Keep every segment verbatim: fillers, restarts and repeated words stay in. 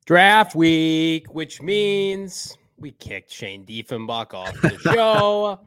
Draft week, which means we kicked Shane Diefenbach off the show.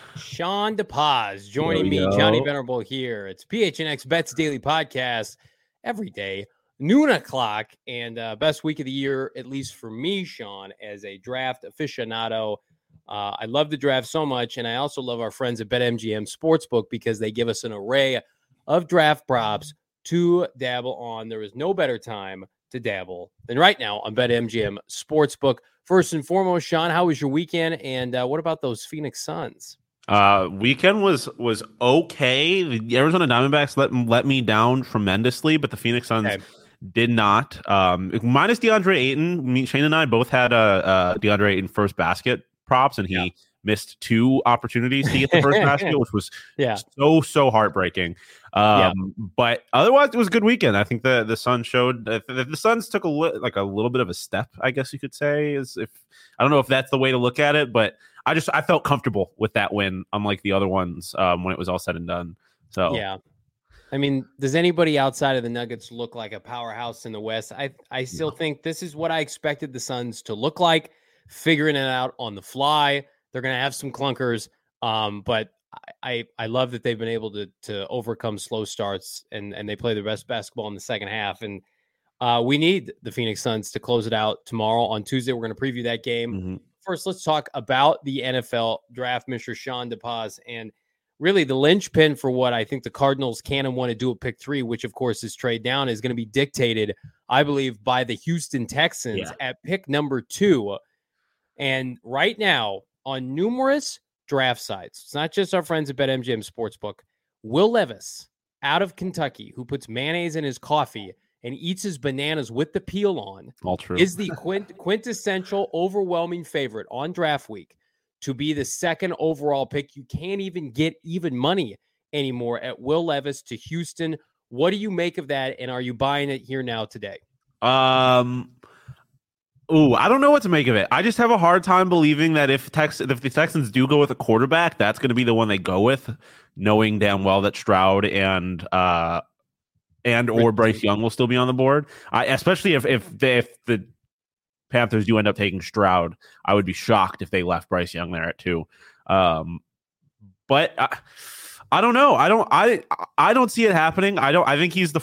Sean DePaz joining yo, yo. me, Johnny Venerable here. It's P H N X Bets Daily Podcast every day, noon o'clock, and uh, best week of the year, at least for me, Sean, as a draft aficionado. Uh, I love the draft so much, and I also love our friends at BetMGM Sportsbook because they give us an array of draft props to dabble on. There is no better time to dabble than right now on BetMGM Sportsbook. First and foremost, Sean, how was your weekend? And uh, what about those Phoenix Suns? Uh, weekend was was okay. The Arizona Diamondbacks let let me down tremendously, but the Phoenix Suns Okay. did not. Um, minus DeAndre Ayton. Me, Shane and I both had a, a DeAndre Ayton first basket props, and he Yeah. missed two opportunities to get the first basket, which was Yeah. so so heartbreaking. Um, Yeah. But otherwise, it was a good weekend. I think the the Suns showed uh, the, the Suns took a li- like a little bit of a step, I guess you could say. Is if I don't know if that's the way to look at it, but I just I felt comfortable with that win, unlike the other ones um, when it was all said and done. So Yeah. I mean, does anybody outside of the Nuggets look like a powerhouse in the West? I I still No. think this is what I expected the Suns to look like, figuring it out on the fly. They're going to have some clunkers, um, but I, I I love that they've been able to to overcome slow starts and and they play the best basketball in the second half. And uh, we need the Phoenix Suns to close it out tomorrow. On Tuesday, we're going to preview that game. Mm-hmm. First, let's talk about the N F L draft, Mister Sean DePaz, and really the linchpin for what I think the Cardinals can and want to do at pick three, which of course is trade down, is going to be dictated, I believe, by the Houston Texans Yeah. at pick number two. And right now, on numerous draft sites, it's not just our friends at BetMGM Sportsbook, Will Levis out of Kentucky, who puts mayonnaise in his coffee and eats his bananas with the peel on, All true. is the quint- quintessential overwhelming favorite on draft week to be the second overall pick. You can't even get even money anymore at Will Levis to Houston. What do you make of that? And are you buying it here now today? Um. Ooh, I don't know what to make of it. I just have a hard time believing that if Tex if the Texans do go with a quarterback, that's going to be the one they go with, knowing damn well that Stroud and uh and or Bryce Young will still be on the board. I especially if if they, if the Panthers do end up taking Stroud, I would be shocked if they left Bryce Young there at two. Um, but I, I don't know. I don't. I I don't see it happening. I don't. I think he's the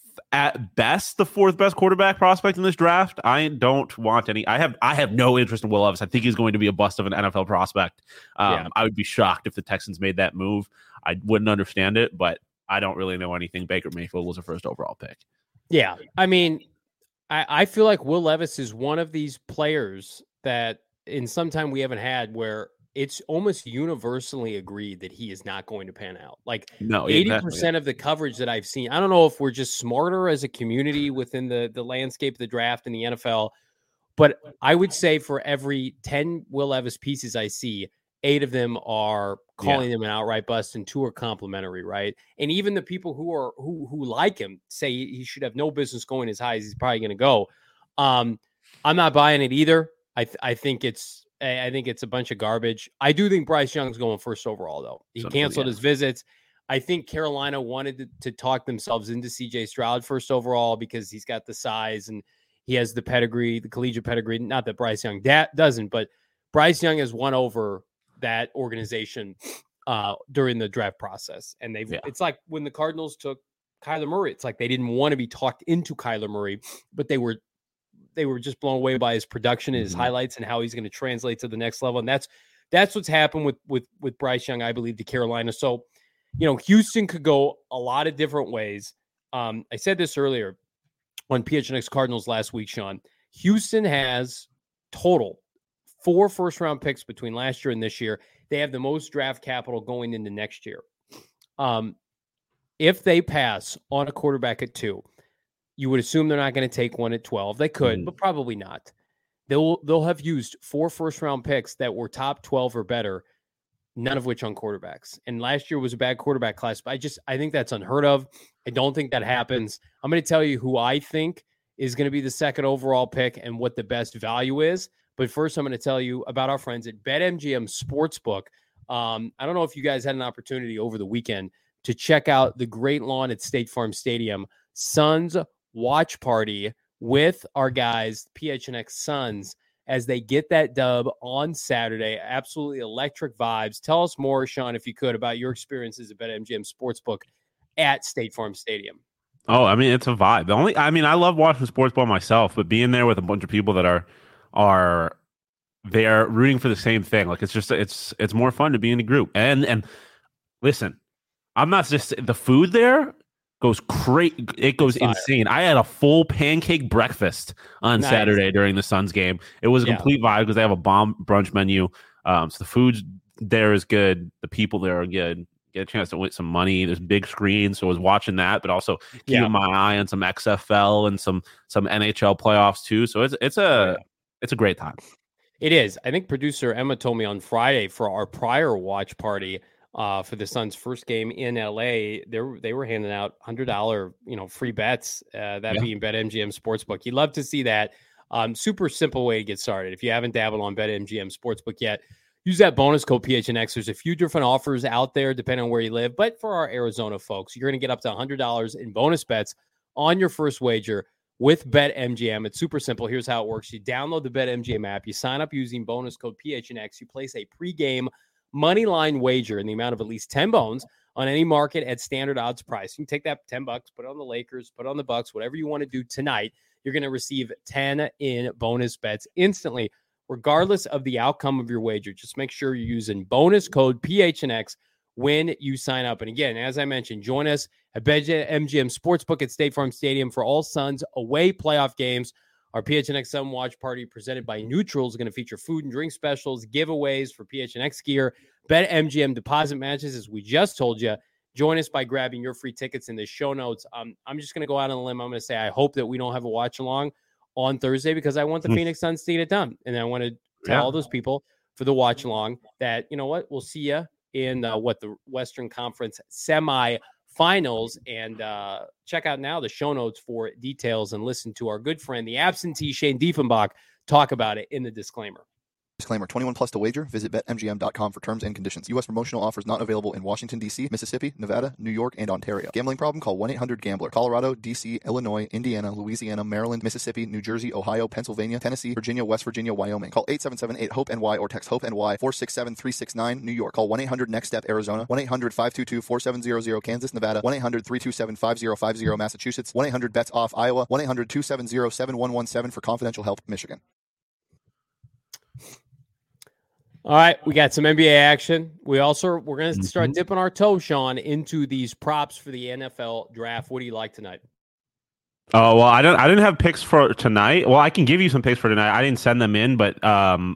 at best the fourth best quarterback prospect in this draft. I don't want any. I have. I have no interest in Will Levis. I think he's going to be a bust of an N F L prospect. Um, Yeah. I would be shocked if the Texans made that move. I wouldn't understand it, but I don't really know anything. Baker Mayfield was a first overall pick. Yeah, I mean, I, I feel like Will Levis is one of these players that in some time we haven't had where it's almost universally agreed that he is not going to pan out. Like No, eighty exactly. percent of the coverage that I've seen, I don't know if we're just smarter as a community within the, the landscape of the draft in the N F L, but I would say for every ten Will Levis pieces I see, eight of them are calling Yeah. him an outright bust and two are complimentary, right? And even the people who are who who like him say he should have no business going as high as he's probably going to go. Um, I'm not buying it either. I th- I think it's I think it's a bunch of garbage. I do think Bryce Young's going first overall though. He So, canceled yeah. his visits. I think Carolina wanted to, to talk themselves into C J Stroud first overall because he's got the size and he has the pedigree, the collegiate pedigree. Not that Bryce Young da- doesn't, but Bryce Young has won over that organization uh, during the draft process. And they've, Yeah. it's like when the Cardinals took Kyler Murray, it's like they didn't want to be talked into Kyler Murray, but they were, they were just blown away by his production and his Mhm. highlights and how he's going to translate to the next level. And that's, that's what's happened with, with, with Bryce Young, I believe, to Carolina. So, you know, Houston could go a lot of different ways. Um, I said this earlier on P H N X Cardinals last week, Sean. Houston has total four first round picks between last year and this year. They have the most draft capital going into next year. Um, if they pass on a quarterback at two, you would assume they're not going to take one at twelve. They could, Mhm. but probably not. They'll they'll have used four first round picks that were top twelve or better, none of which on quarterbacks. And last year was a bad quarterback class, but I just I think that's unheard of. I don't think that happens. I'm going to tell you who I think is going to be the second overall pick and what the best value is. But first, I'm going to tell you about our friends at BetMGM Sportsbook. Um, I don't know if you guys had an opportunity over the weekend to check out the great lawn at State Farm Stadium. Suns Watch Party with our guys, P H N X Suns, as they get that dub on Saturday. Absolutely electric vibes. Tell us more, Sean, if you could, about your experiences at BetMGM Sportsbook at State Farm Stadium. Oh, I mean, it's a vibe. The only, I mean, I love watching sports ball myself, but being there with a bunch of people that are, are, they're rooting for the same thing. Like, it's just, it's, it's more fun to be in a group. And, and listen, I'm not just, the food there goes crazy. It goes Fire. insane. I had a full pancake breakfast on nice. Saturday during the Suns game. It was a yeah. complete vibe because they have a bomb brunch menu. Um, so the food there is good. The people there are good. Get a chance to win some money. There's big screens, so I was watching that, but also keeping yeah. my eye on some X F L and some some N H L playoffs too. So it's it's a yeah. it's a great time. It is. I think producer Emma told me on Friday for our prior watch party uh, for the Suns' first game in L A. They were, they were handing out one hundred dollars you know free bets. Uh, that yeah. being BetMGM Sportsbook. You'd love to see that. Um, super simple way to get started. If you haven't dabbled on BetMGM Sportsbook yet, use that bonus code P H N X. There's a few different offers out there depending on where you live. But for our Arizona folks, you're going to get up to one hundred dollars in bonus bets on your first wager with BetMGM. It's super simple. Here's how it works. You download the BetMGM app. You sign up using bonus code P H N X. You place a pregame money line wager in the amount of at least ten bones on any market at standard odds price. You can take that ten bucks, put it on the Lakers, put it on the Bucks, whatever you want to do tonight. You're going to receive ten in bonus bets instantly, regardless of the outcome of your wager. Just make sure you're using bonus code P H N X when you sign up. And again, as I mentioned, join us at BetMGM Sportsbook at State Farm Stadium for all Suns away playoff games. Our P H N X Sun Watch Party presented by Neutral is going to feature food and drink specials, giveaways for P H N X gear, BetMGM deposit matches, as we just told you. Join us by grabbing your free tickets in the show notes. Um, I'm just going to go out on a limb. I'm going to say I hope that we don't have a watch along on Thursday because I want the mm. Phoenix Suns to get it done. And I want to tell yeah. all those people for the watch along that, you know what, we'll see you in uh, what the Western Conference semifinals. And uh, check out now the show notes for details and listen to our good friend, the absentee Shane Diefenbach, talk about it in the disclaimer. Disclaimer, twenty-one plus to wager. Visit Bet M G M dot com for terms and conditions. U S promotional offers not available in Washington, D C, Mississippi, Nevada, New York, and Ontario. Gambling problem? Call one eight hundred gambler. Colorado, D C, Illinois, Indiana, Louisiana, Maryland, Mississippi, New Jersey, Ohio, Pennsylvania, Tennessee, Virginia, West Virginia, Wyoming. Call eight seven seven eight hope N Y or text HOPE-NY four six seven three six nine, New York. Call one eight hundred next step Arizona. one eight hundred five two two four seven zero zero, Kansas, Nevada. one eight hundred three two seven five zero five zero, Massachusetts. one eight hundred bets off, Iowa. one eight hundred two seven zero seven one one seven for confidential help, Michigan. All right, we got some N B A action. We also we're going to start dipping our toe, Sean, into these props for the N F L draft. What do you like tonight? Oh well, I don't. I didn't have picks for tonight. Well, I can give you some picks for tonight. I didn't send them in, but um,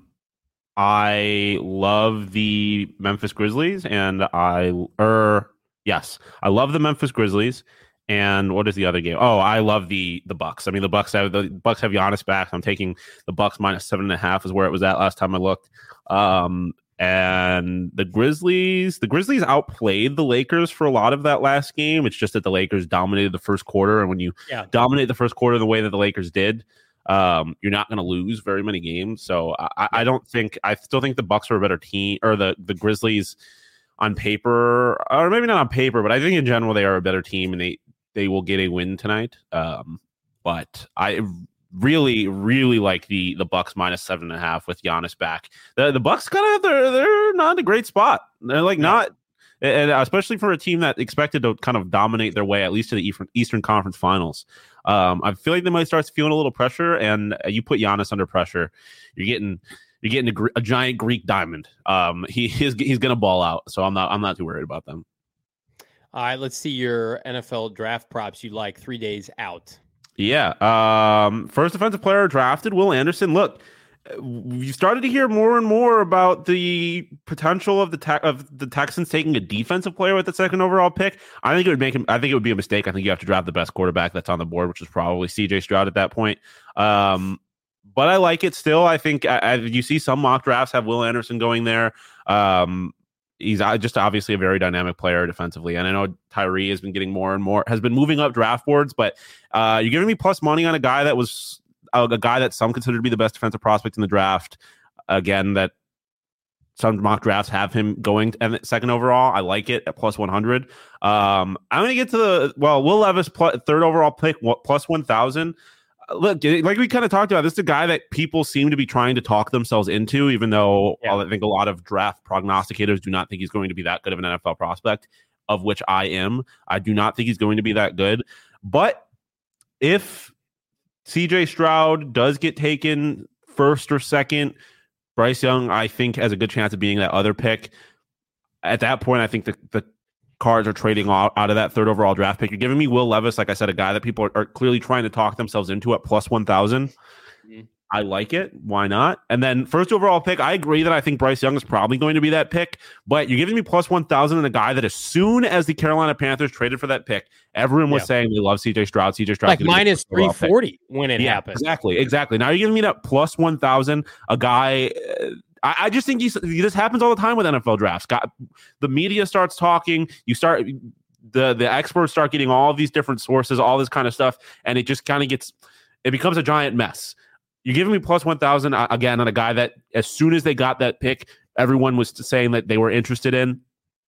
I love the Memphis Grizzlies, and I er yes, I love the Memphis Grizzlies. And what is the other game? Oh, I love the the Bucks. I mean, the Bucks have the Bucks have Giannis back. I'm taking the Bucks minus seven and a half is where it was at last time I looked. Um, and the Grizzlies, the Grizzlies outplayed the Lakers for a lot of that last game. It's just that the Lakers dominated the first quarter, and when you yeah. dominate the first quarter the way that the Lakers did, um, you're not going to lose very many games. So I, yeah. I don't think I still think the Bucks are a better team, or the the Grizzlies on paper, or maybe not on paper, but I think in general they are a better team, and they. They will get a win tonight. Um, but I really, really like the the Bucks minus seven and a half with Giannis back. The the Bucks kind of they're they're not in a great spot. They're like not, and especially for a team that expected to kind of dominate their way at least to the Eastern Eastern Conference Finals. Um, I feel like they might start feeling a little pressure, and you put Giannis under pressure, you're getting you're getting a, a giant Greek diamond. Um, he is he's gonna ball out, so I'm not I'm not too worried about them. All right, let's see your N F L draft props you like three days out. Yeah. Um, first defensive player drafted, Will Anderson. Look, you started to hear more and more about the potential of the te- of the Texans taking a defensive player with the second overall pick. I think it would make him. I think it would be a mistake. I think you have to draft the best quarterback that's on the board, which is probably C J Stroud at that point. Um, but I like it still. I think I, I, you see some mock drafts have Will Anderson going there. Um, He's just obviously a very dynamic player defensively. And I know Tyree has been getting more and more, has been moving up draft boards, but uh, you're giving me plus money on a guy that was a, a guy that some consider to be the best defensive prospect in the draft. Again, that some mock drafts have him going to second overall. I like it at plus one hundred. Um, I'm going to get to the, well, Will Levis plus, third overall pick plus one thousand. look, like we kind of talked about, this is a guy that people seem to be trying to talk themselves into, even though yeah. I think a lot of draft prognosticators do not think he's going to be that good of an N F L prospect, of which I am. I do not think he's going to be that good. But if C J Stroud does get taken first or second, Bryce Young, I think, has a good chance of being that other pick. At that point, I think the, the Cards are trading out, out of that third overall draft pick. You're giving me Will Levis, like I said, a guy that people are, are clearly trying to talk themselves into at plus one thousand. Mm-hmm. I like it. Why not? And then first overall pick, I agree that I think Bryce Young is probably going to be that pick, but you're giving me plus one thousand and a guy that as soon as the Carolina Panthers traded for that pick, everyone was yeah. saying they love C J Stroud. C J Stroud. Like minus three forty when it yeah, happened. Exactly. Exactly. Now you're giving me that plus one thousand, a guy... Uh, I just think you, this happens all the time with N F L drafts. Got, the media starts talking. You start the the experts start getting all of these different sources, all this kind of stuff, and it just kind of gets it becomes a giant mess. You're giving me plus one thousand again on a guy that as soon as they got that pick, everyone was saying that they were interested in.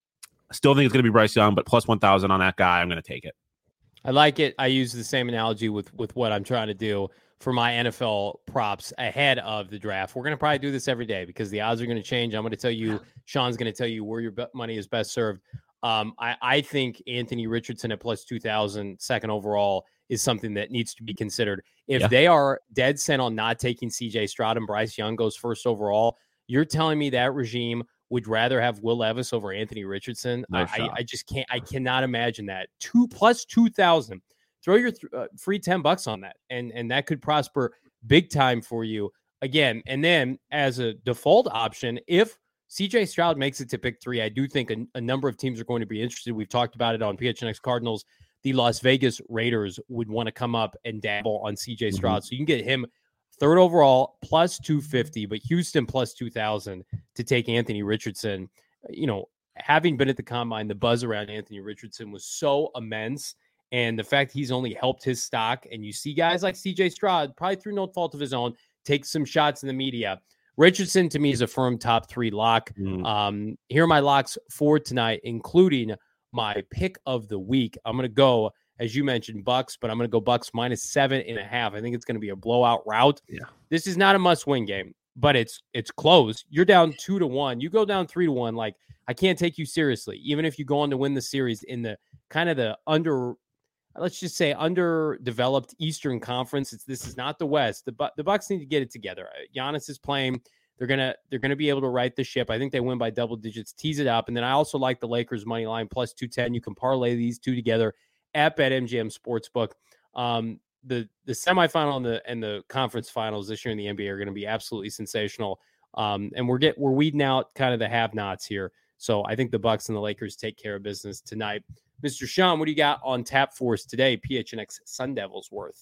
Still think it's going to be Bryce Young, but plus one thousand on that guy, I'm going to take it. I like it. I use the same analogy with with what I'm trying to do for my N F L props ahead of the draft. We're going to probably do this every day because the odds are going to change. I'm going to tell you, Sean's going to tell you where your money is best served. Um, I, I think Anthony Richardson at plus two thousand, second overall, is something that needs to be considered. If yeah. they are dead set on not taking C J Stroud and Bryce Young goes first overall, you're telling me that regime would rather have Will Levis over Anthony Richardson? Nice I, I just can't. I cannot imagine that. Two plus two thousand. Throw your th- uh, free ten bucks on that, and and that could prosper big time for you again. And then as a default option, if C J Stroud makes it to pick three, I do think a, a number of teams are going to be interested. We've talked about it on P H N X Cardinals. The Las Vegas Raiders would want to come up and dabble on C J Stroud, mm-hmm. so you can get him third overall plus two fifty, but Houston plus two thousand to take Anthony Richardson. You know, having been at the combine, the buzz around Anthony Richardson was so immense. And the fact he's only helped his stock, and you see guys like C J Stroud, probably through no fault of his own, take some shots in the media. Richardson, to me, is a firm top three lock. Mm. Um, here are my locks for tonight, including my pick of the week. I'm going to go, as you mentioned, Bucks, but I'm going to go Bucks minus seven and a half. I think it's going to be a blowout rout. Yeah. This is not a must-win game, but it's it's close. You're down two to one. You go down three to one. Like, I can't take you seriously, even if you go on to win the series in the kind of the under. Let's just say underdeveloped Eastern Conference. It's this is not the West. The the Bucks need to get it together. Giannis is playing. They're gonna they're gonna be able to right the ship. I think they win by double digits. Tease it up, and then I also like the Lakers money line plus two ten. You can parlay these two together at BetMGM Sportsbook. Um, the the semifinal and the and the conference finals this year in the N B A are going to be absolutely sensational. Um, and we're get we're weeding out kind of the have-nots here. So I think the Bucks and the Lakers take care of business tonight. Mister Sean, what do you got on tap for us today? P H N X Sun Devils worth.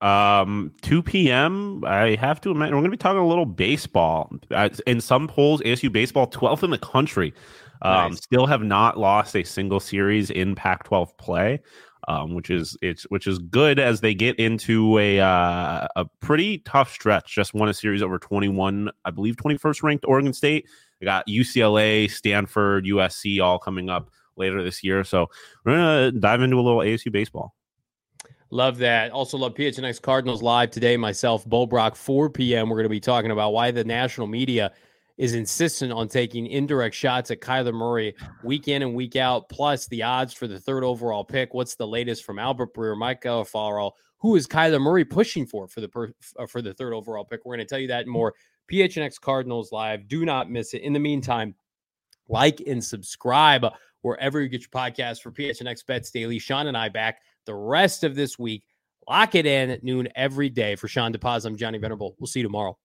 Um, two p.m. I have to imagine we're going to be talking a little baseball. Uh, in some polls, A S U baseball twelfth in the country. Um, nice. Still have not lost a single series in Pac twelve play, um, which is it's which is good as they get into a uh, a pretty tough stretch. Just won a series over twenty-one, I believe, twenty-first ranked Oregon State. They got U C L A, Stanford, U S C all coming up later this year. So we're going to dive into a little A S U baseball. Love that. Also love P H N X Cardinals live today. Myself, Bo Brock, four p.m. We're going to be talking about why the national media is insistent on taking indirect shots at Kyler Murray week in and week out, plus the odds for the third overall pick. What's the latest from Albert Breer, Mike Garafolo? Who is Kyler Murray pushing for for the per, uh, for the third overall pick? We're going to tell you that and more. P H N X Cardinals live. Do not miss it. In the meantime, like and subscribe wherever you get your podcast for P H N X Bets Daily. Sean and I back the rest of this week. Lock it in at noon every day. For Sean DePaz, I'm Johnny Venerable. We'll see you tomorrow.